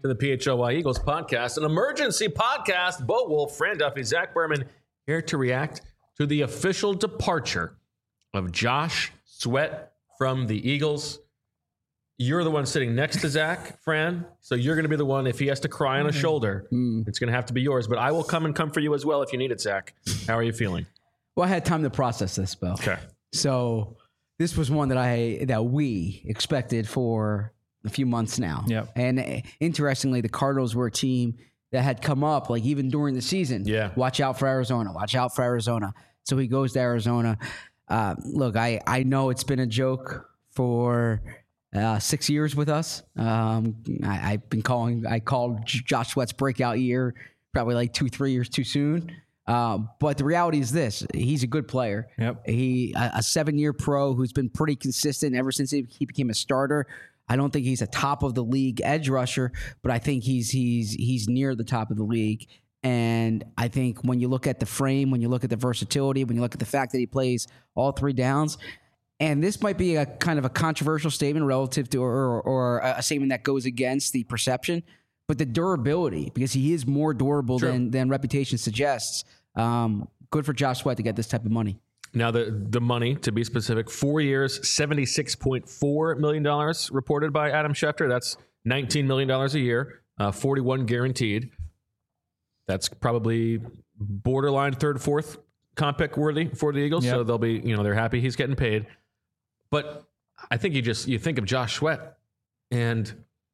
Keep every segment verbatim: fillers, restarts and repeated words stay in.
to the P H L Y Eagles podcast, an emergency podcast. Bo Wolf, Fran Duffy, Zach Berman here to react to the official departure of Josh Sweat from the Eagles. You're the one sitting next to Zach, Fran, so you're going to be the one, if he has to cry on a shoulder, mm. it's going to have to be yours. But I will come and comfort you as well if you need it, Zach. How are you feeling? Well, I had time to process this, Bill. Okay. So this was one that I that we expected for a few months now. Yep. And interestingly, the Cardinals were a team that had come up, like even during the season. Yeah. Watch out for Arizona. Watch out for Arizona. So he goes to Arizona. Uh, look, I, I know it's been a joke for uh, six years with us. Um, I, I've been calling, I called Josh Sweat's breakout year probably like two, three years too soon. Uh, but the reality is this: he's a good player. Yep. He a, a seven-year pro who's been pretty consistent ever since he, he became a starter. I don't think he's a top of the league edge rusher, but I think he's he's he's near the top of the league. And I think when you look at the frame, when you look at the versatility, when you look at the fact that he plays all three downs, and this might be a kind of a controversial statement relative to, or, or a statement that goes against the perception, but the durability, because he is more durable True. than than reputation suggests. Um, good for Josh Sweat to get this type of money. Now, the, the money, to be specific, four years, seventy-six point four million dollars reported by Adam Schefter. That's nineteen million dollars a year, uh, forty-one guaranteed. That's probably borderline third, fourth comp pick worthy for the Eagles. Yep. So they'll be, you know, they're happy he's getting paid. But I think you just, you think of Josh Sweat, and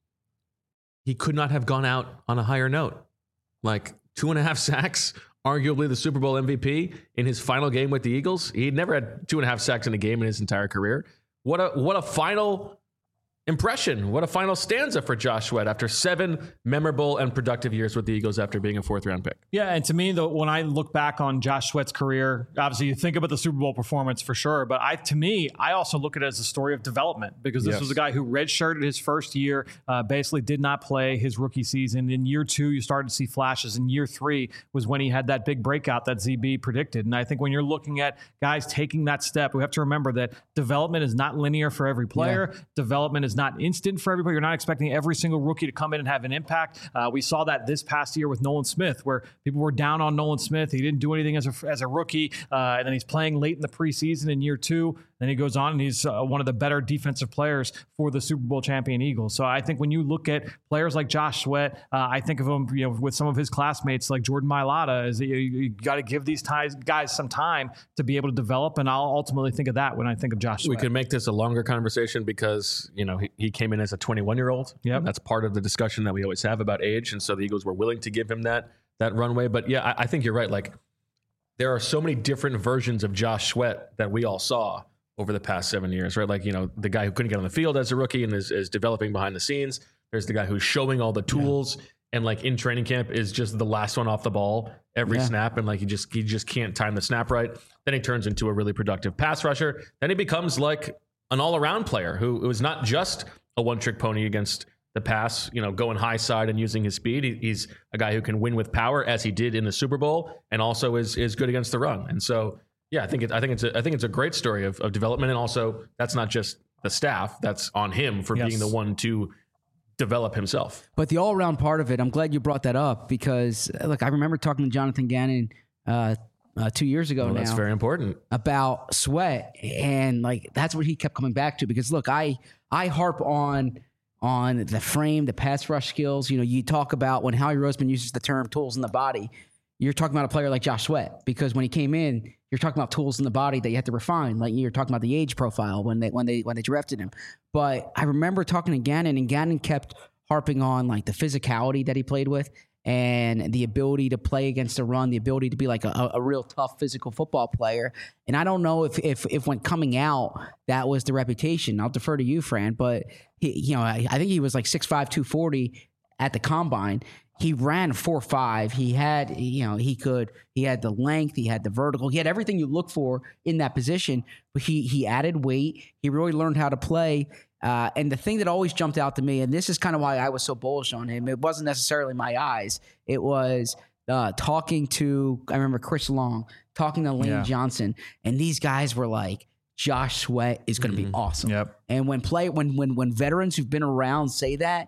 he could not have gone out on a higher note. Like two and a half sacks, arguably the Super Bowl M V P in his final game with the Eagles. He'd never had two and a half sacks in a game in his entire career. What a what a final impression. What a final stanza for Josh Sweat after seven memorable and productive years with the Eagles after being a fourth round pick. Yeah, and to me, though, when I look back on Josh Sweat's career, obviously you think about the Super Bowl performance for sure, but I, to me, I also look at it as a story of development, because this Yes. was a guy who redshirted his first year, uh, basically did not play his rookie season. In year two, you started to see flashes. In year three was when he had that big breakout that Z B predicted. And I think when you're looking at guys taking that step, we have to remember that development is not linear for every player. Yeah. Development is not instant for everybody. You're not expecting every single rookie to come in and have an impact. Uh, we saw that this past year with Nolan Smith, where people were down on Nolan Smith. He didn't do anything as a, as a rookie. Uh, and then he's playing late in the preseason in year two. Then he goes on and he's uh, one of the better defensive players for the Super Bowl champion Eagles. So I think when you look at players like Josh Sweat, uh, I think of him, you know, with some of his classmates like Jordan Mailata, is you, you got to give these ties, guys some time to be able to develop. And I'll ultimately think of that when I think of Josh Sweat. We can make this a longer conversation because, you know, he, he came in as a twenty-one-year-old. Yeah, that's part of the discussion that we always have about age. And so the Eagles were willing to give him that that runway. But yeah, I, I think you're right. Like, there are so many different versions of Josh Sweat that we all saw over the past seven years, right? Like, you know, the guy who couldn't get on the field as a rookie and is, is developing behind the scenes. There's the guy who's showing all the tools yeah. and like in training camp is just the last one off the ball every yeah. snap. And like, he just, he just can't time the snap right. Then he turns into a really productive pass rusher. Then he becomes like an all around player who, who is not just a one trick pony against the pass, you know, going high side and using his speed. He, he's a guy who can win with power, as he did in the Super Bowl, and also is, is good against the run. And so, yeah, I think it, I think it's a, I think it's a great story of, of development, and also that's not just the staff; that's on him for yes. being the one to develop himself. But the all-around part of it, I'm glad you brought that up, because look, I remember talking to Jonathan Gannon uh, uh, two years ago well, now. That's very important about Sweat, and like that's what he kept coming back to. Because look, I I harp on on the frame, the pass rush skills. You know, you talk about when Howie Roseman uses the term "tools in the body." You're talking about a player like Josh Sweat, because when he came in, you're talking about tools in the body that you have to refine. Like you're talking about the age profile when they when they when they drafted him. But I remember talking to Gannon, and Gannon kept harping on like the physicality that he played with, and the ability to play against the run, the ability to be like a, a real tough physical football player. And I don't know if if if when coming out that was the reputation. I'll defer to you, Fran, but he, you know, I, I think he was like six five, two forty at the combine. He ran four five. He had, you know, he could, he had the length, he had the vertical, he had everything you look for in that position, but he, he added weight. He really learned how to play. Uh, and the thing that always jumped out to me, and this is kind of why I was so bullish on him, it wasn't necessarily my eyes. It was uh, talking to, I remember Chris Long, talking to Lane yeah. Johnson, and these guys were like, Josh Sweat is going to mm-hmm. be awesome. Yep. And when play, when, when, when veterans who've been around say that,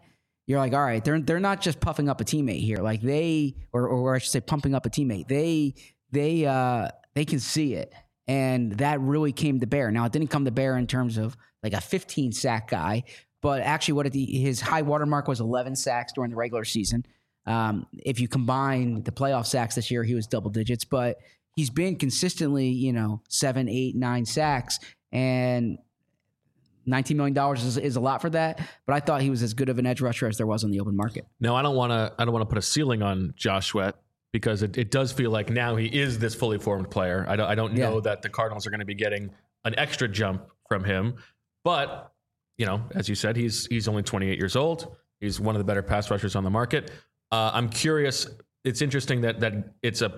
you're like, all right, they're they're not just puffing up a teammate here. Like they, or or I should say, pumping up a teammate. They they uh, they can see it, and that really came to bear. Now it didn't come to bear in terms of like a fifteen sack guy, but actually, what it, his high watermark was eleven sacks during the regular season. Um, if you combine the playoff sacks this year, he was double digits, but he's been consistently, you know, seven, eight, nine sacks, and nineteen million dollars is, is a lot for that. But I thought he was as good of an edge rusher as there was on the open market. No, I don't want to. I don't want to put a ceiling on Josh Sweat because it, it does feel like now he is this fully formed player. I don't. I don't know yeah. that the Cardinals are going to be getting an extra jump from him, but you know, as you said, he's he's only twenty-eight years old. He's one of the better pass rushers on the market. Uh, I'm curious. It's interesting that that it's a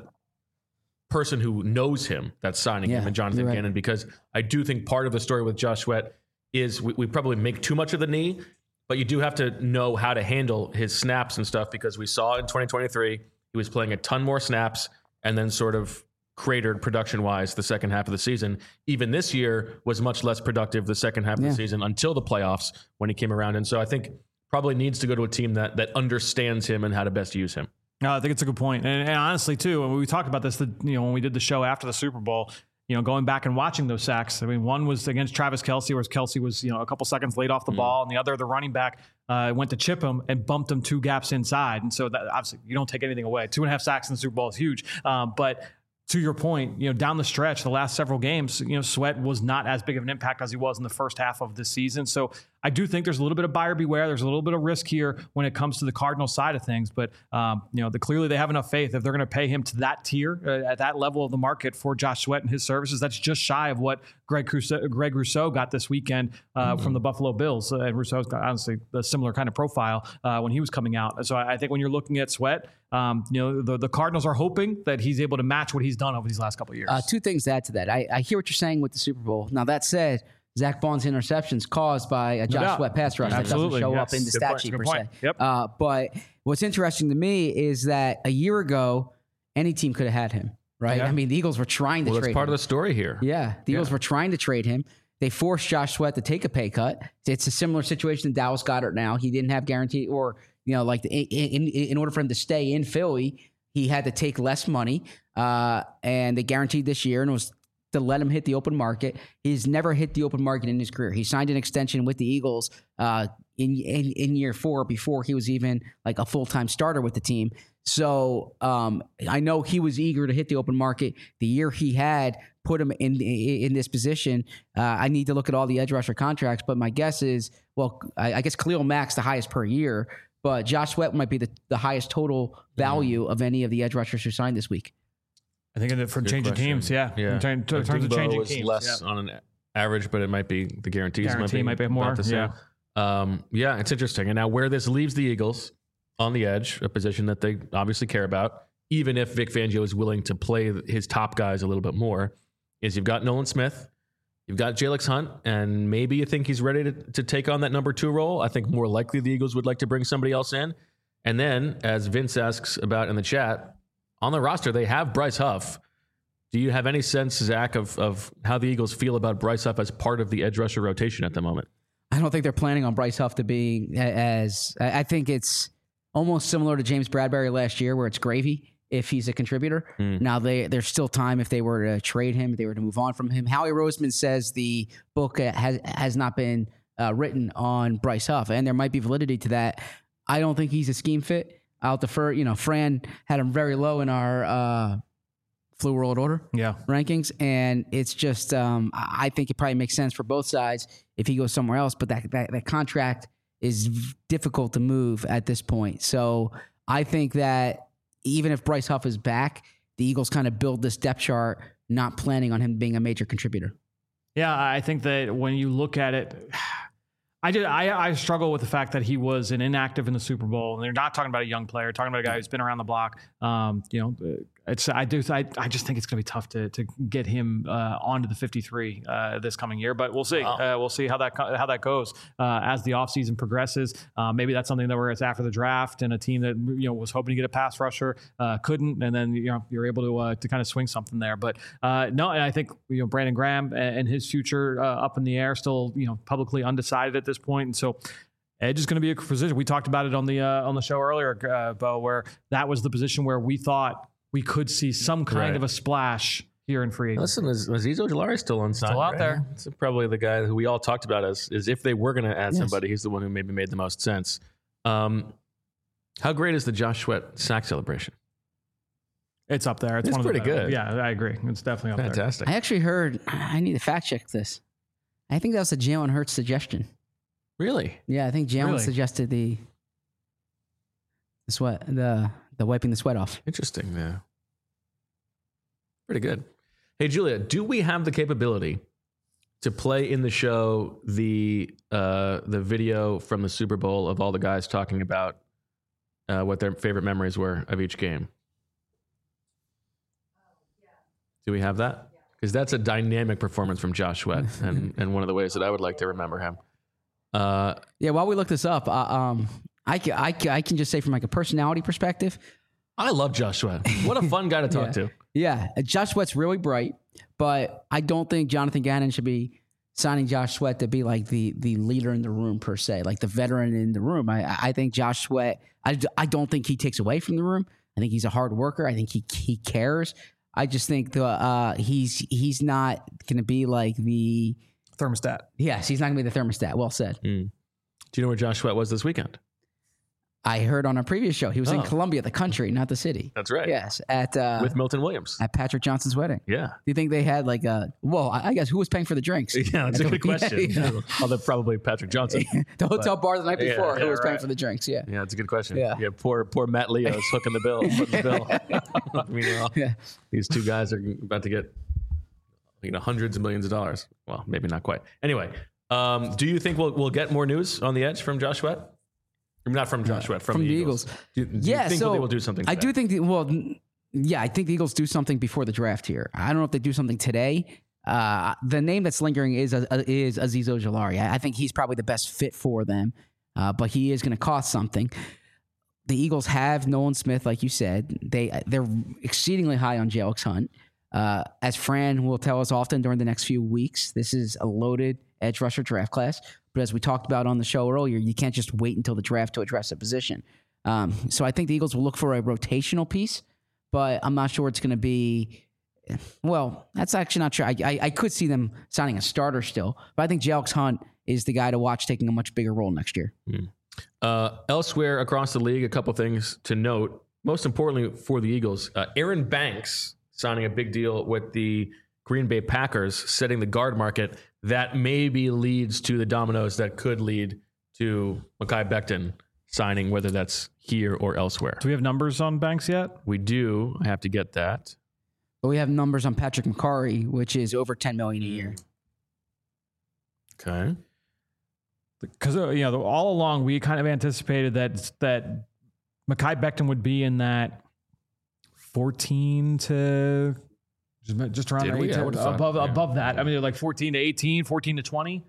person who knows him that's signing yeah, him, and Jonathan right. Gannon, because I do think part of the story with Josh Sweat is we, we probably make too much of the knee, but you do have to know how to handle his snaps and stuff, because we saw in twenty twenty-three he was playing a ton more snaps and then sort of cratered production-wise the second half of the season. Even this year was much less productive the second half of yeah. the season until the playoffs when he came around. And so I think probably needs to go to a team that that understands him and how to best use him. No, I think it's a good point. And, and honestly, too, when we talked about this, the, you know, when we did the show after the Super Bowl, you know, going back and watching those sacks, I mean, one was against Travis Kelce, where Kelce was, you know, a couple seconds late off the mm. ball, and the other, the running back, uh, went to chip him and bumped him two gaps inside. And so that obviously you don't take anything away. Two and a half sacks in the Super Bowl is huge. Um, but to your point, you know, down the stretch, the last several games, you know, Sweat was not as big of an impact as he was in the first half of this season. So I do think there's a little bit of buyer beware. There's a little bit of risk here when it comes to the Cardinals side of things. But, um, you know, the, clearly they have enough faith if they're going to pay him to that tier, uh, at that level of the market for Josh Sweat and his services. That's just shy of what Greg Rousseau, Greg Rousseau got this weekend uh, mm-hmm. from the Buffalo Bills. Uh, and Rousseau's got, honestly, a similar kind of profile uh, when he was coming out. So I, I think when you're looking at Sweat, um, you know, the, the Cardinals are hoping that he's able to match what he's done over these last couple of years. Uh, two things to add to that. I, I hear what you're saying with the Super Bowl. Now, that said, Zach Bond's interceptions caused by a Josh no Sweat pass rush Absolutely. that doesn't show yes. up in the Good stat point. sheet Good per point. se. Yep. Uh, but what's interesting to me is that a year ago, any team could have had him, right? Yeah. I mean, the Eagles were trying to well, trade him. That's part of the story here. Yeah, the Eagles yeah. were trying to trade him. They forced Josh Sweat to take a pay cut. It's a similar situation to Dallas Goedert now. He didn't have guarantee, or, you know, like the, in, in, in order for him to stay in Philly, he had to take less money, uh, and they guaranteed this year, and it was to let him hit the open market. He's never hit the open market in his career. He signed an extension with the Eagles uh, in, in in year four before he was even like a full-time starter with the team. So um, I know he was eager to hit the open market. The year he had put him in in this position. Uh, I need to look at all the edge rusher contracts, but my guess is, well, I, I guess Khalil Mack's the highest per year, but Josh Sweat might be the, the highest total value mm. of any of the edge rushers who signed this week. I think for changing question. teams, yeah. yeah. In terms, in terms of changing was teams. less yeah. on an average, but it might be the guarantees Guarantee might be, might be more. about the same. Yeah. Um, yeah, it's interesting. And now where this leaves the Eagles on the edge, a position that they obviously care about, even if Vic Fangio is willing to play his top guys a little bit more, is you've got Nolan Smith, you've got Jalen Hunt, and maybe you think he's ready to, to take on that number two role. I think more likely the Eagles would like to bring somebody else in. And then, as Vince asks about in the chat, on the roster, they have Bryce Huff. Do you have any sense, Zach, of, of how the Eagles feel about Bryce Huff as part of the edge rusher rotation at the moment? I don't think they're planning on Bryce Huff to be as, I think it's almost similar to James Bradbury last year, where it's gravy if he's a contributor. Mm. Now, they, there's still time if they were to trade him, if they were to move on from him. Howie Roseman says the book has, has not been uh, written on Bryce Huff, and there might be validity to that. I don't think he's a scheme fit. I'll defer, you know, Fran had him very low in our uh, Flu World Order yeah. rankings, and it's just, um, I think it probably makes sense for both sides if he goes somewhere else, but that, that, that contract is difficult to move at this point. So I think that even if Bryce Huff is back, the Eagles kind of build this depth chart, not planning on him being a major contributor. Yeah, I think that when you look at it, I did. I, I struggle with the fact that he was an inactive in the Super Bowl, and they're not talking about a young player, talking about a guy who's been around the block. Um, you know, it's. I do. I, I just think it's going to be tough to to get him uh, onto the fifty-three uh, this coming year, but we'll see. Wow. Uh, we'll see how that how that goes uh, as the offseason progresses. Uh, maybe that's something that where it's after the draft, and a team that you know was hoping to get a pass rusher uh, couldn't, and then you know you're able to uh, to kind of swing something there. But uh, no, and I think you know Brandon Graham and his future uh, up in the air, still you know publicly undecided at this point, and so edge is going to be a position. We talked about it on the uh, on the show earlier, uh, Bo, where that was the position where we thought we could see some kind Right. of a splash here in free agency. Listen, is Azeez Ojulari still on Still out there. It's probably the guy who we all talked about as is if they were going to add Yes. somebody, he's the one who maybe made the most sense. Um, how great is the Josh Sweat sack celebration? It's up there. It's, It's one pretty of the, good. Yeah, I agree. It's definitely up there. Fantastic. I actually heard. I need to fact check this. I think that was a Jalen Hurts suggestion. Really? Yeah, I think Jalen Really? suggested the the sweat, the the wiping the sweat off. Interesting. Yeah. Pretty good. Hey, Julia, do we have the capability to play in the show the uh, the video from the Super Bowl of all the guys talking about uh, what their favorite memories were of each game? Do we have that? Because that's a dynamic performance from Josh Sweat, and, and one of the ways that I would like to remember him. Uh, Yeah, while we look this up, uh, um, I can, I can I can just say from like a personality perspective, I love Josh Sweat. What a fun guy to talk Yeah. to. yeah, uh, Josh Sweat's really bright, but I don't think Jonathan Gannon should be signing Josh Sweat to be like the the leader in the room per se, like the veteran in the room. I I think Josh Sweat. I, I don't think he takes away from the room. I think he's a hard worker. I think he he cares. I just think the uh, he's he's not going to be like the Thermostat. yes, he's not going to be the thermostat. Well said. Do you know where Josh Sweat was this weekend? I heard on a previous show he was in Oh. Columbia, the country, not the city. That's right. Yes, at uh, With Milton Williams. at Patrick Johnson's wedding. Yeah. Do you think they had like a? Well, I I guess who was paying for the drinks? Yeah, that's a At the- good question. Yeah, Although probably Patrick Johnson. the hotel bar the night Yeah, before. yeah, who was paying right. for the drinks? Yeah. Yeah, that's a good question. Yeah. Yeah, poor poor Matt Leo's hooking the bill, footing the bill. Meanwhile, Yeah. these two guys are about to get you know hundreds of millions of dollars. Well, maybe not quite. Anyway, um, do you think we'll we'll get more news on the edge from Josh Sweat? I mean, not from Josh Sweat, from, from the the Eagles. Eagles. Do, do Yeah, you think so they will do something? I today? do think. The, well, n- yeah, I think the Eagles do something before the draft here. I don't know if they do something today. Uh, the name that's lingering is uh, is Azeez Ojulari. I, I think he's probably the best fit for them, uh, but he is going to cost something. The Eagles have Nolan Smith, like you said. They they're exceedingly high on J X Hunt. Uh, as Fran will tell us often during the next few weeks, this is a loaded edge rusher draft class. But as we talked about on the show earlier, you can't just wait until the draft to address a position. Um, so I think the Eagles will look for a rotational piece, but I'm not sure it's going to be. Well, that's actually not true. I, I, I could see them signing a starter still, but I think J X Hunt is the guy to watch taking a much bigger role next year. Uh, elsewhere across the league, a couple things to note. Most importantly for the Eagles, uh, Aaron Banks signing a big deal with the Green Bay Packers, setting the guard market. That maybe leads to the dominoes that could lead to Mekhi Becton signing, whether that's here or elsewhere. Do we have numbers on Banks yet? We do. I have to get that. But we have numbers on Patrick McCarry, which is over ten million dollars a year. Okay. Because you know, all along we kind of anticipated that that Mekhi Becton would be in that fourteen to just, just around Did there, we? I eighteen, would've thought, above yeah. above that. I mean, they're like fourteen to eighteen, fourteen to twenty.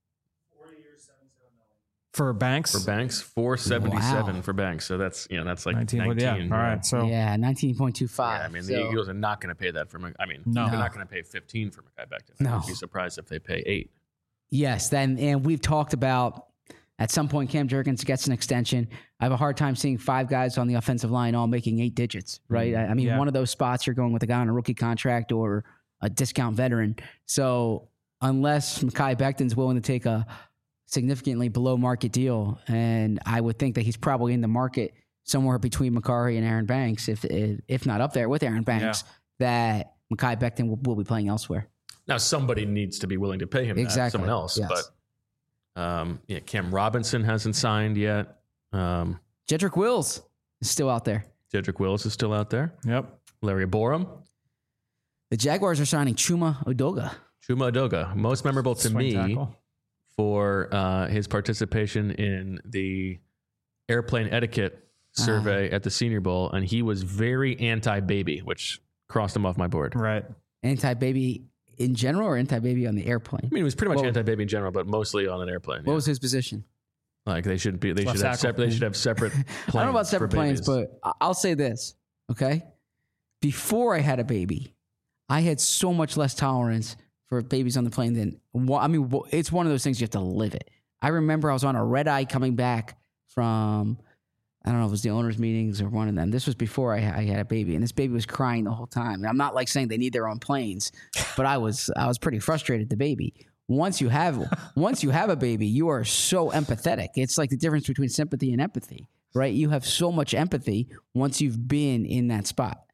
For Banks, For Banks, four seventy-seven Wow. for Banks. So that's, you know, that's like nineteen. nineteen. Yeah, all right. So Yeah, nineteen point two five. Yeah, I mean, So- the Eagles are not going to pay that for Mc- I mean, No. they're No. not going to pay fifteen for Mekhi Becton. No. I'd be surprised if they pay eight. Yes, then and we've talked about at some point Cam Jurgens gets an extension. I have a hard time seeing five guys on the offensive line all making eight digits, right? I, I mean, Yeah. one of those spots you're going with a guy on a rookie contract or a discount veteran. So unless Mekhi Becton's willing to take a significantly below market deal, and I would think that he's probably in the market somewhere between McCarry and Aaron Banks, if if, if not up there with Aaron Banks, that Mekhi Becton will, will be playing elsewhere. Now, somebody needs to be willing to pay him that, Exactly. someone else. Yes. But um, yeah, Cam Robinson hasn't signed yet. Um, Jedrick Wills is still out there. Jedrick Wills is still out there. yep. Larry Borum. The Jaguars are signing Chuma Odoga. Chuma Odoga, most memorable to Swing me tackle. for uh, his participation in the airplane etiquette survey at the Senior Bowl. And he was very anti-baby, which crossed him off my board. Right. Anti-baby in general or anti-baby on the airplane? I mean, he was pretty much Well- anti-baby in general, but mostly on an airplane. What yeah. was his position? Like they should be, they Left should have tackle. separate. They should have separate. Planes I don't know about separate for planes, babies. but I- I'll say this, okay? Before I had a baby, I had so much less tolerance for babies on the plane than, wa- I mean, wa- it's one of those things you have to live it. I remember I was on a red eye coming back from, I don't know if it was the owners' meetings or one of them. This was before I, I had a baby, and this baby was crying the whole time. And I'm not like saying they need their own planes, but I was I was pretty frustrated. The baby. Once you have once you have a baby, you are so empathetic. It's like the difference between sympathy and empathy, right? You have so much empathy once you've been in that spot.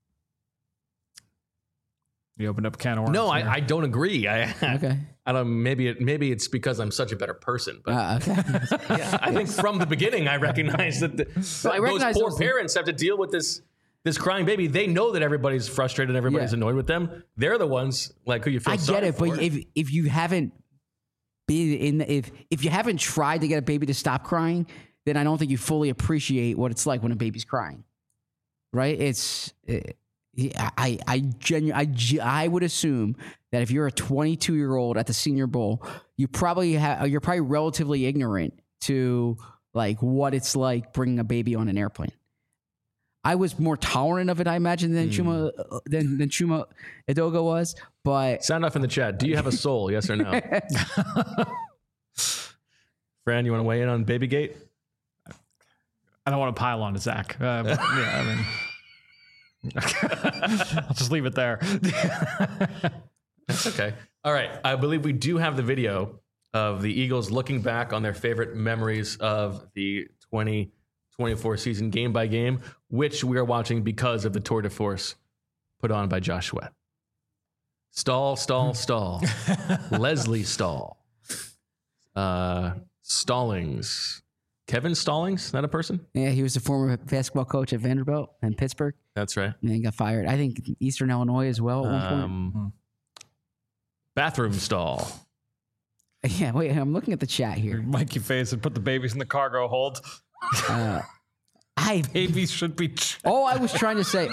You opened up a can of worms. No, here. I, I don't agree. I, Okay. I don't. Maybe it. Maybe it's because I'm such a better person. But Uh, okay. yeah, I think from the beginning I recognize that the, Well, I recognize those poor those- parents have to deal with this this crying baby. They know that everybody's frustrated, everybody's Yeah. annoyed with them. They're the ones like who you feel. I sorry get it, for. but if if you haven't been in, if if you haven't tried to get a baby to stop crying, then I don't think you fully appreciate what it's like when a baby's crying. Right? It's it, I I genu- I ge- I would assume that if you're a twenty-two year old at the Senior Bowl, you probably have you're probably relatively ignorant to like what it's like bringing a baby on an airplane. I was more tolerant of it, I imagine, than Chuma than than Chuma Edoga was, but Sound off in the chat. Do you have a soul? Yes or no? Fran, you want to weigh in on Babygate? I don't want to pile on to Zach. Uh, but, yeah, I mean, I'll just leave it there. That's okay. All right. I believe we do have the video of the Eagles looking back on their favorite memories of the twenty twenty-four season game by game, which we are watching because of the tour de force put on by Josh Sweat. Stall, stall, stall. Leslie Stall. Uh, Stallings. Kevin Stallings, is that a person? yeah, he was the former basketball coach at Vanderbilt and Pittsburgh, That's right. and he got fired. I think Eastern Illinois as well at one point. Um, bathroom stall. Yeah, wait, I'm looking at the chat here. Mikey face and put the babies in the cargo hold. Uh, I Babies should be. all I was trying to say,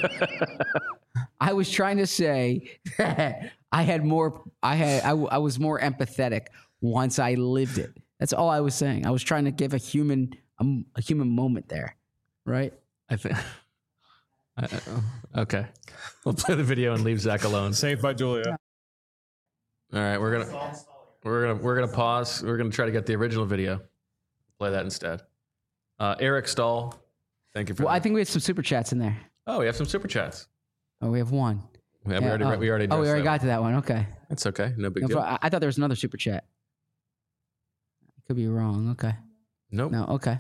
I was trying to say that I had more. I had I, w- I was more empathetic once I lived it. That's all I was saying. I was trying to give a human um, a human moment there, right? I think. I- I- okay. We'll play the video and leave Zach alone. Saved by Julia. All right, we're gonna we're gonna we're gonna pause. We're gonna try to get the original video. Play that instead. Uh, Eric Stahl, thank you for. Well, that. I think we have some super chats in there. Oh, we have some super chats. Oh, we have one. Yeah, we Yeah, already oh. we already. Oh, we addressed already that got to that one. Okay. one. It's okay. No big No, deal. I, I thought there was another super chat. Could be wrong. Okay. Nope. No. Okay.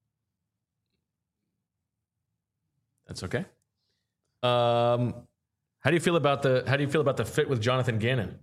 That's okay. Um, how do you feel about the How do you feel about the fit with Jonathan Gannon?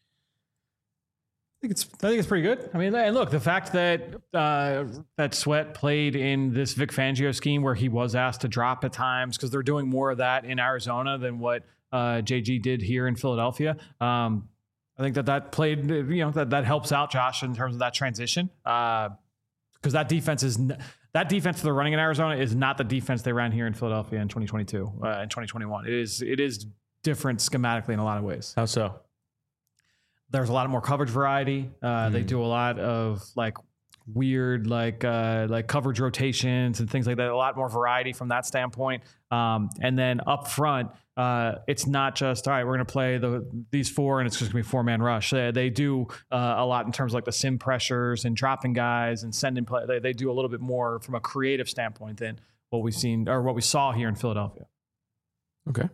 I think it's I think it's pretty good. I mean, and look, the fact that uh, that Sweat played in this Vic Fangio scheme where he was asked to drop at times because they're doing more of that in Arizona than what uh, J G did here in Philadelphia. Um, I think that that played, you know, that that helps out Josh in terms of that transition because uh, that defense is n- that defense they're running in Arizona is not the defense they ran here in Philadelphia in twenty twenty-two uh, and twenty twenty-one. It is it is different schematically in a lot of ways. How so? There's a lot more coverage variety. Uh, They do a lot of like weird, like uh, like coverage rotations and things like that. A lot more variety from that standpoint. Um, and then up front, uh, it's not just all right. We're going to play the these four, and it's just going to be four man rush. They, they do uh, a lot in terms of like the sim pressures and dropping guys and sending play. They, they do a little bit more from a creative standpoint than what we've seen or what we saw here in Philadelphia. Okay.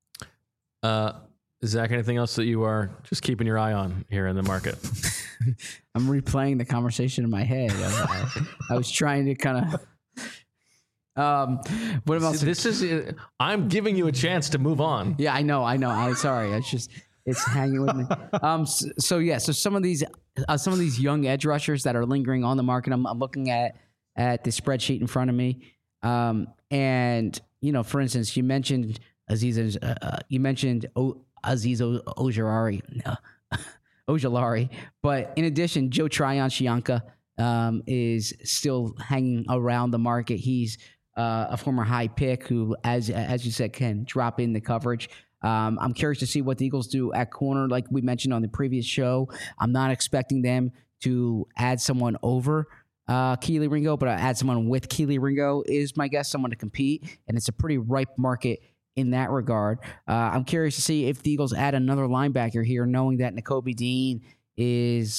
Uh, Zach, anything else that you are just keeping your eye on here in the market? I'm replaying the conversation in my head. I, I was trying to kind of. Um, what about See, this is. uh, I'm giving you a chance to move on. Yeah, I know, I know. I'm sorry. It's just it's hanging with me. Um, so, so yeah, so some of these uh, some of these young edge rushers that are lingering on the market. I'm, I'm looking at at the spreadsheet in front of me, um, and you know, for instance, you mentioned Aziz. Uh, uh, you mentioned o- Aziz o- Ojulari, no, Ojulari, but in addition, Joe Tryon-Shoyinka um, is still hanging around the market. He's uh, a former high pick who, as as you said, can drop in the coverage. Um, I'm curious to see what the Eagles do at corner, like we mentioned on the previous show. I'm not expecting them to add someone over uh, Keely Ringo, but I add someone with Keely Ringo is my guess, someone to compete, and it's a pretty ripe market in that regard. Uh, I'm curious to see if the Eagles add another linebacker here, knowing that Nakobe Dean is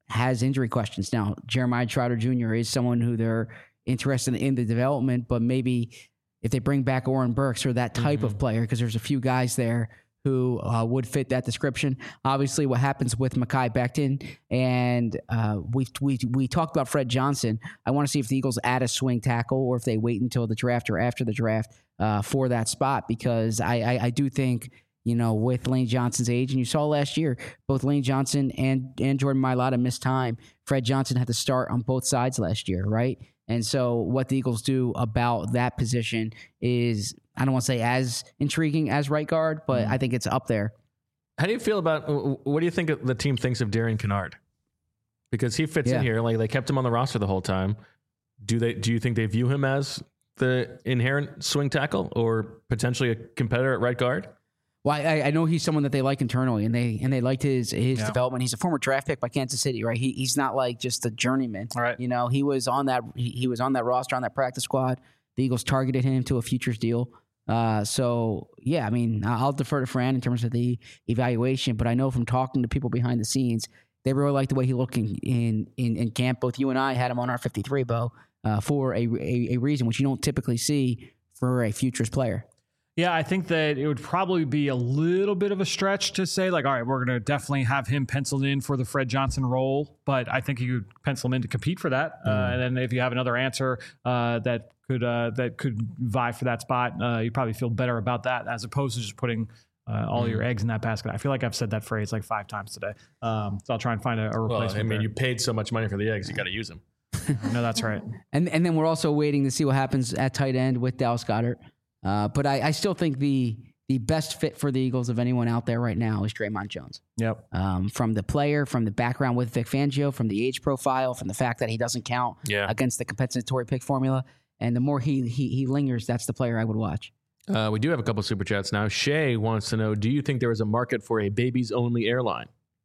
has injury questions. Now, Jeremiah Trotter Junior is someone who they're interested in the development, but maybe if they bring back Oren Burks or that type mm-hmm. of player, because there's a few guys there who uh, would fit that description. Obviously, what happens with Mekhi Becton, and uh, we we we talked about Fred Johnson. I want to see if the Eagles add a swing tackle or if they wait until the draft or after the draft uh, for that spot, because I, I, I do think, you know, with Lane Johnson's age, and you saw last year, both Lane Johnson and, and Jordan Mailata missed time. Fred Johnson had to start on both sides last year, right? And so what the Eagles do about that position is, I don't want to say as intriguing as right guard, but mm. I think it's up there. How do you feel about, what do you think the team thinks of Darian Kennard? Because he fits yeah. in here. Like, they kept him on the roster the whole time. Do they? Do you think they view him as the inherent swing tackle or potentially a competitor at right guard? Well, I, I know he's someone that they like internally, and they and they liked his his yeah. development. He's a former draft pick by Kansas City, right? He he's not like just a journeyman. All right. You know, he was on that he, he was on that roster, on that practice squad. The Eagles targeted him to a futures deal. Uh, so yeah, I mean, I'll defer to Fran in terms of the evaluation, but I know from talking to people behind the scenes, they really like the way he looked in in, in, in camp. Both you and I had him on our fifty-three, Bo, uh, for a, a a reason which you don't typically see for a futures player. Yeah, I think that it would probably be a little bit of a stretch to say, like, all right, we're going to definitely have him penciled in for the Fred Johnson role, but I think you could pencil him in to compete for that. Mm. Uh, and then if you have another answer uh, that could uh, that could vie for that spot, uh, you probably feel better about that as opposed to just putting uh, all mm. your eggs in that basket. I feel like I've said that phrase like five times today. Um, so I'll try and find a, a replacement. Well, I mean, there. You paid so much money for the eggs, you got to use them. No, that's right. And and then we're also waiting to see what happens at tight end with Dallas Goedert. Uh, but I, I still think the the best fit for the Eagles of anyone out there right now is Draymond Jones. Yep. Um, from the player, from the background with Vic Fangio, from the age profile, from the fact that he doesn't count yeah. against the compensatory pick formula, and the more he he, he lingers, that's the player I would watch. Uh, we do have a couple super chats now. Shay wants to know: do you think there is a market for a babies only airline?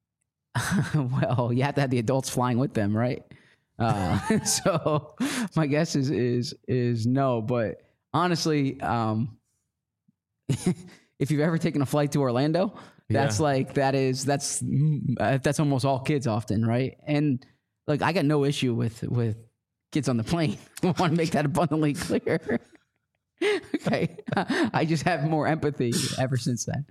Well, you have to have the adults flying with them, right? Uh, so my guess is is is no, but. Honestly, um, if you've ever taken a flight to Orlando, that's yeah. like that is that's uh, that's almost all kids often, right? And like I got no issue with with kids on the plane. I want to make that abundantly clear. Okay, I just have more empathy ever since then.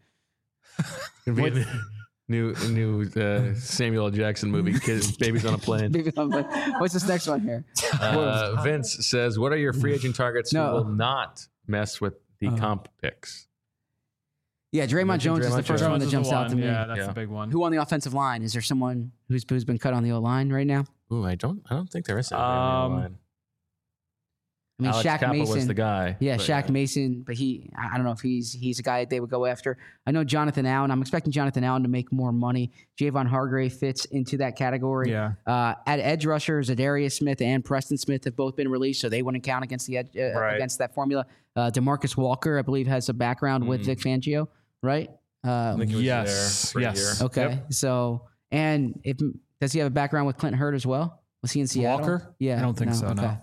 New new uh, Samuel L. Jackson movie, Kids, Babies on a Plane. Babies on a Plane. What's this next one here? Uh, Vince says, what are your free agent targets no. who will not mess with the uh, comp picks? Yeah, Draymond Jones Draymond is the first Jones one that jumps out to me. Yeah, that's yeah. the big one. Who on the offensive line? Is there someone who's who's been cut on the O-line right now? Ooh, I don't I don't think there is anyone um, on the O-line. I mean, Alex Shaq Cappa Mason was the guy. Yeah, but, Shaq uh, Mason, but he, I don't know if he's he's a guy they would go after. I know Jonathan Allen. I'm expecting Jonathan Allen to make more money. Javon Hargrave fits into that category. Yeah. Uh, at edge rusher, Zadarius Smith and Preston Smith have both been released, so they wouldn't count against the edge, uh, right. against that formula. Uh, DeMarcus Walker, I believe, has a background mm. with Vic Fangio, right? Uh, yes. Yes. Okay. Yep. So, and if does he have a background with Clint Hurtt as well? Was he in Seattle? Walker? Yeah. I don't think no, so. Okay. No.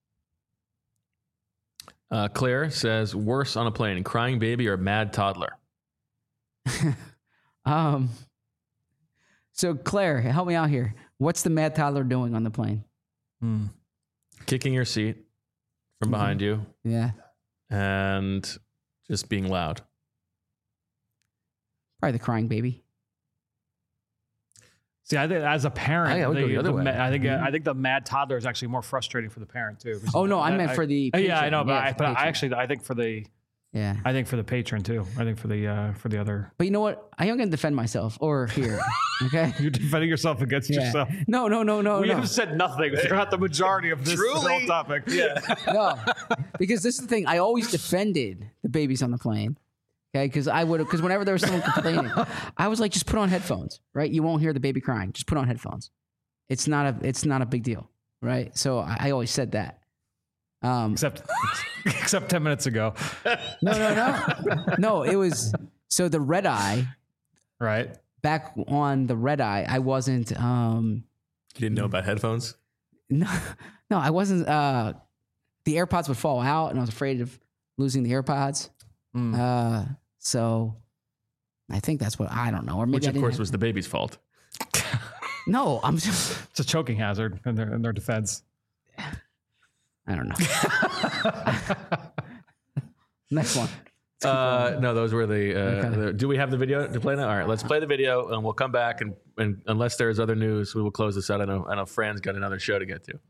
Uh, Claire says, worse on a plane, crying baby or mad toddler? um. So, Claire, help me out here. What's the mad toddler doing on the plane? Hmm. Kicking your seat from mm-hmm. behind you. Yeah. And just being loud. Probably the crying baby. See, I think as a parent, I, I, the, the other the, way. I think Mm-hmm. I think the mad toddler is actually more frustrating for the parent too. Oh no, I, I meant I, for the patron. patron. Yeah, I know, but, yeah, I, but I actually I think for the yeah, I think for the patron too. I think for the uh, for the other. But you know what? I am going to defend myself or here. Okay, you're defending yourself against yeah. yourself. No, no, no, no. We no. have said nothing throughout the majority of this whole topic. Yeah, no, because this is the thing. I always defended the babies on the plane. Okay, because I would because whenever there was someone complaining, I was like, just put on headphones, right? You won't hear the baby crying. Just put on headphones. It's not a it's not a big deal, right? So I, I always said that. Um, except except ten minutes ago. No, no, no, no. It was so the red eye, right? Back on the red eye, I wasn't. Um, you didn't know about headphones? No, no, I wasn't. Uh, the AirPods would fall out, and I was afraid of losing the AirPods. Mm. Uh, so I think that's what I don't know. Or maybe Which, I of didn't course, have, was the baby's fault. No, I'm just. It's a choking hazard in their in their defense. I don't know. Next one. Uh, no, those were the, uh, Okay. the. Do we have the video to play now? All right, let's play the video, and we'll come back. And, and unless there's other news, we will close this out. I know, I know, Fran's got another show to get to.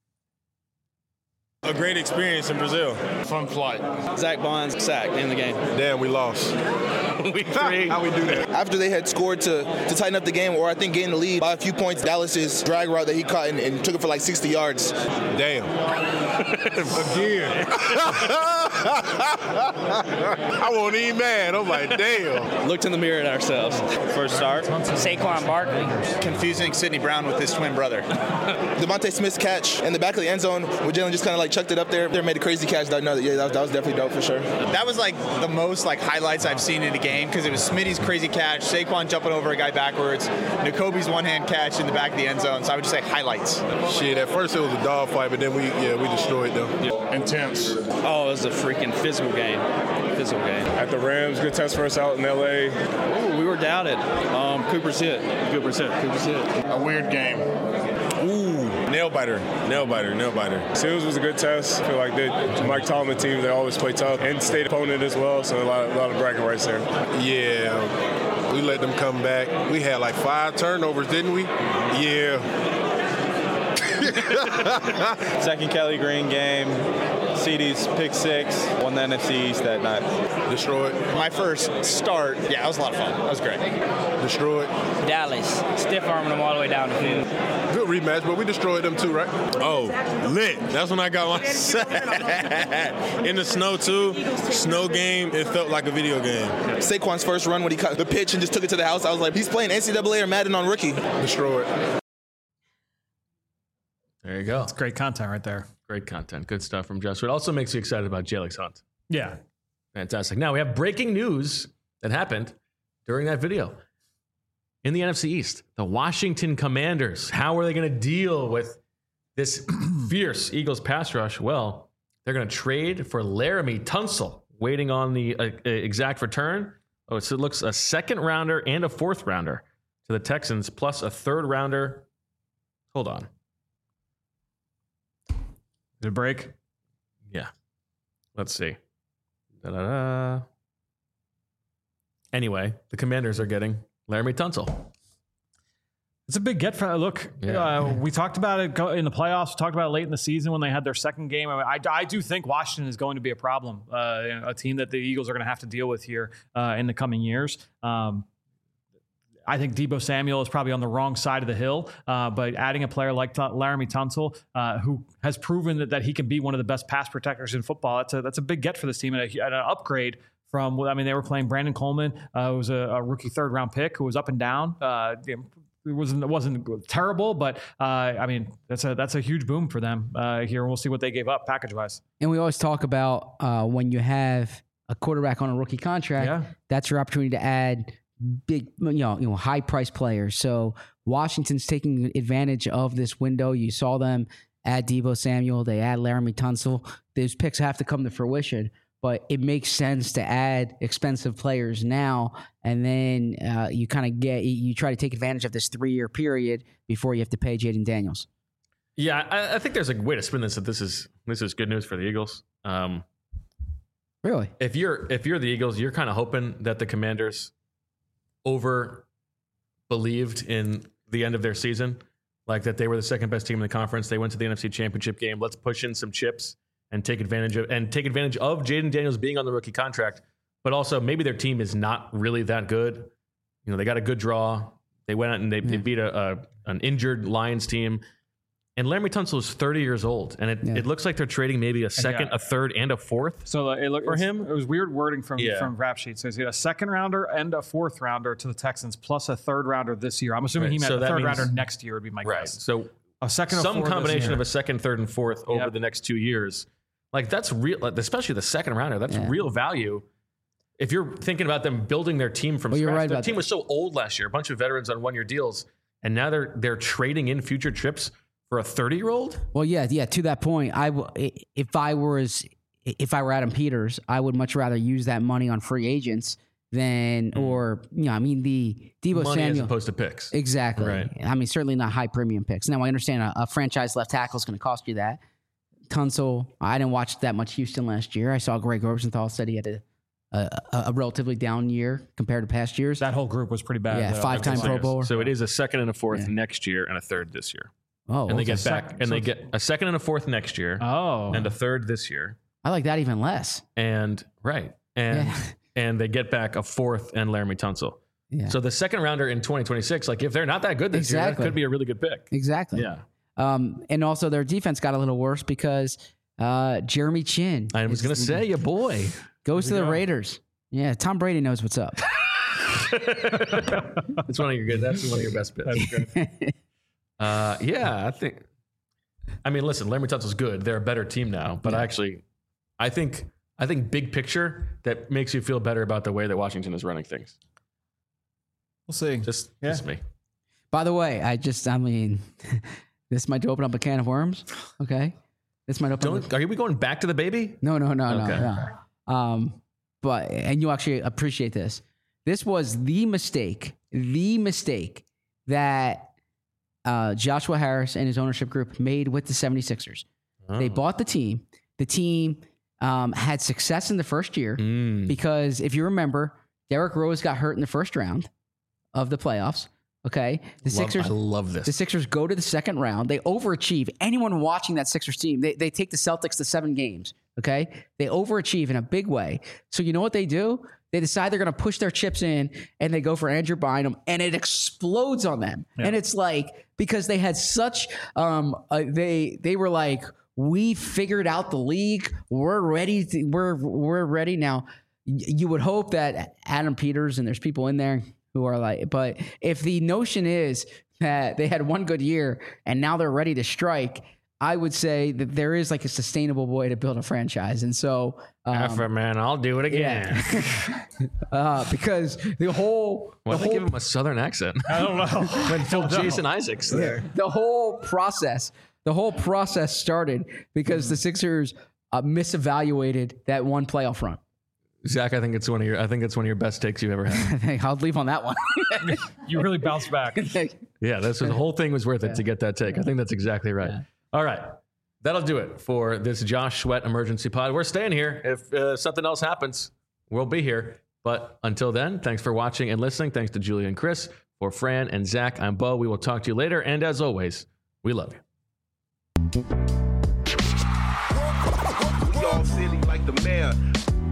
A great experience in Brazil. Fun flight. Zach Bonds sacked in the game. Damn, we lost. Week three. How we do that? After they had scored to, to tighten up the game, or I think gain the lead by a few points, Dallas's drag route that he caught and, and took it for like sixty yards. Damn. Again. I wasn't even mad. I'm like, damn. Looked in the mirror at ourselves. First start, Saquon Barkley. Confusing Sidney Brown with his twin brother. Devontae Smith's catch in the back of the end zone, where Jalen just kind of like chucked it up there. There made a crazy catch. That, no, yeah, that was, that was definitely dope for sure. That was like the most like highlights I've seen in a game because it was Smitty's crazy catch, Saquon jumping over a guy backwards, N'Kobe's one-hand catch in the back of the end zone. So I would just say highlights. Shit, at first it was a dog fight, but then we, yeah, we destroyed them. Intense. Oh, it was a freaking physical game. Physical game. At the Rams, good test for us out in L A. Ooh, we were doubted. Um, Cooper's hit. Cooper's hit. Cooper's hit. A weird game. Ooh, nail biter, nail biter, nail biter. Seals was a good test. I feel like they, Mike Tomlin team, they always play tough. And state opponent as well, so a lot, a lot of bragging rights there. Yeah, we let them come back. We had like five turnovers, didn't we? Yeah. Second Kelly Green game. C D's pick six. Won the N F C East that night. Destroyed. My first start, yeah, that was a lot of fun. That was great. Destroyed. Dallas, stiff arming them all the way down the field. Good rematch, but we destroyed them too, right? Oh, lit. That's when I got my set. In the snow, too. Snow game, it felt like a video game. Saquon's first run when he cut the pitch and just took it to the house, I was like, he's playing N C double A or Madden on rookie. Destroyed. There you go. It's great content right there. Great content. Good stuff from Josh. It also makes you excited about Jalix Hunt. Yeah. Fantastic. Now we have breaking news that happened during that video. In the N F C East, the Washington Commanders, how are they going to deal with this fierce Eagles pass rush? Well, they're going to trade for Laramie Tunsil, waiting on the uh, exact return. Oh, so it looks a second rounder and a fourth rounder to the Texans, plus a third rounder. Hold on. Did it break? Yeah. Let's see. Da-da-da. Anyway, the Commanders are getting Laramie Tunsil. It's a big get for look. Yeah. Uh, we talked about it in the playoffs. We talked about it late in the season when they had their second game. I, mean, I, I do think Washington is going to be a problem, uh, a team that the Eagles are going to have to deal with here uh, in the coming years. Um, I think Deebo Samuel is probably on the wrong side of the hill, uh, but adding a player like T- Laramie Tunsil, uh, who has proven that, that he can be one of the best pass protectors in football, that's a that's a big get for this team and, a, and an upgrade from. I mean, they were playing Brandon Coleman, uh, who was a, a rookie third round pick, who was up and down. Uh, it wasn't it wasn't terrible, but uh, I mean, that's a that's a huge boom for them uh, here, and we'll see what they gave up package wise. And we always talk about uh, when you have a quarterback on a rookie contract, Yeah. that's your opportunity to add big, you know, you know, high price players. So Washington's taking advantage of this window. You saw them add Deebo Samuel. They add Laramie Tunsil. Those picks have to come to fruition, but it makes sense to add expensive players now. And then uh, you kind of get, you try to take advantage of this three year period before you have to pay Jaden Daniels. Yeah, I, I think there's a way to spin this that this is this is good news for the Eagles. Um, Really? if you're if you're the Eagles, you're kind of hoping that the Commanders over believed in the end of their season, like that they were the second best team in the conference. They went to the N F C Championship game. Let's push in some chips and take advantage of and take advantage of Jaden Daniels being on the rookie contract, but also maybe their team is not really that good. You know, they got a good draw. They went out and they, Yeah. they beat a, a an injured Lions team. And Laramie Tunsil is thirty years old, and it, Yeah. it looks like they're trading maybe a second, Yeah. a third, and a fourth. So uh, it looked For it's- him? It was weird wording from Yeah. from Rap Sheet. So he's got a second rounder and a fourth rounder to the Texans, plus a third rounder this year. I'm assuming Right. he meant So a that third means- rounder next year would be my Right. guess. So A second, or some four this combination year. of a second, third, and fourth over Yep. the next two years. Like that's real, like, especially the second rounder. That's Yeah. real value. If you're thinking about them building their team from Well, you're scratch, right their about team that. was so old last year, a bunch of veterans on one-year deals, and now they're they're trading in future trips for a thirty-year-old. Well, yeah, yeah. To that point, I w- i- if I were as if I were Adam Peters, I would much rather use that money on free agents than, mm. or, you know, I mean, the Deebo Money Samuel. as opposed to picks. Exactly. Right. I mean, certainly not high premium picks. Now, I understand a, a franchise left tackle is going to cost you that. Tunsil, I didn't watch that much Houston last year. I saw Greg Rosenthal said he had a, a, a relatively down year compared to past years. That whole group was pretty bad. Yeah, though. five-time Pro Bowler. So it is a second and a fourth Yeah. next year and a third this year. Oh, and they okay. get back, Second. and So they it's- get a second and a fourth next year. Oh. And a third this year. I like that even less. And right, and Yeah. and they get back a fourth and Laramie Tunsil. Yeah. So the second rounder in twenty twenty-six, like if they're not that good this year, Exactly. that could be a really good pick. Exactly. Yeah. Um, and also their defense got a little worse because uh, Jeremy Chin. I was is- going to say, your boy goes to we the go. Raiders. Yeah, Tom Brady knows what's up. That's one of your good. That's one of your best picks. That's good. uh, yeah, I think. I mean, listen, Laramie Tunsil's good. They're a better team now, but Yeah. I actually, I think, I think big picture that makes you feel better about the way that Washington is running things. We'll see. Just, Yeah. just me. By the way, I just, I mean, this might open up a can of worms. Okay. This might open up. Don't, are we going back to the baby? No, no, no, Okay. no, no. Um, but, and you actually appreciate this. This was the mistake, the mistake that uh, Joshua Harris and his ownership group made with the seventy-sixers. Oh. They bought the team. The team um, had success in the first year Mm. because if you remember, Derrick Rose got hurt in the first round of the playoffs. Okay. The Love- Sixers. I love this. The Sixers go to the second round. They overachieve. Anyone watching that Sixers team, they, they take the Celtics to seven games. Okay. They overachieve in a big way. So you know what they do? They decide they're going to push their chips in and they go for Andrew Bynum and it explodes on them. Yeah. And it's like, because they had such, um, uh, they, they were like, we figured out the league. We're ready. To, we're, we're ready. Now y- you would hope that Adam Peters and there's people in there who are like, but if the notion is that they had one good year and now they're ready to strike, I would say that there is like a sustainable way to build a franchise. And so, um, Effort, man, I'll do it again. uh, because the whole, Why the did they whole, give him a southern accent? I don't know. when Phil Jason Isaacs there. the whole process, the whole process started because the Sixers uh, misevaluated that one playoff run. Zach, I think it's one of your. I think it's one of your best takes you've ever had. I think I'll leave on that one. You really bounced back. Yeah, this was, the whole thing was worth it to get that take. I think that's exactly right. Yeah. All right, that'll do it for this Josh Sweat emergency pod. We're staying here. If uh, something else happens, we'll be here. But until then, thanks for watching and listening. Thanks to Julia and Chris. For Fran and Zach, I'm Bo. We will talk to you later. And as always, we love you. We all silly like the mayor.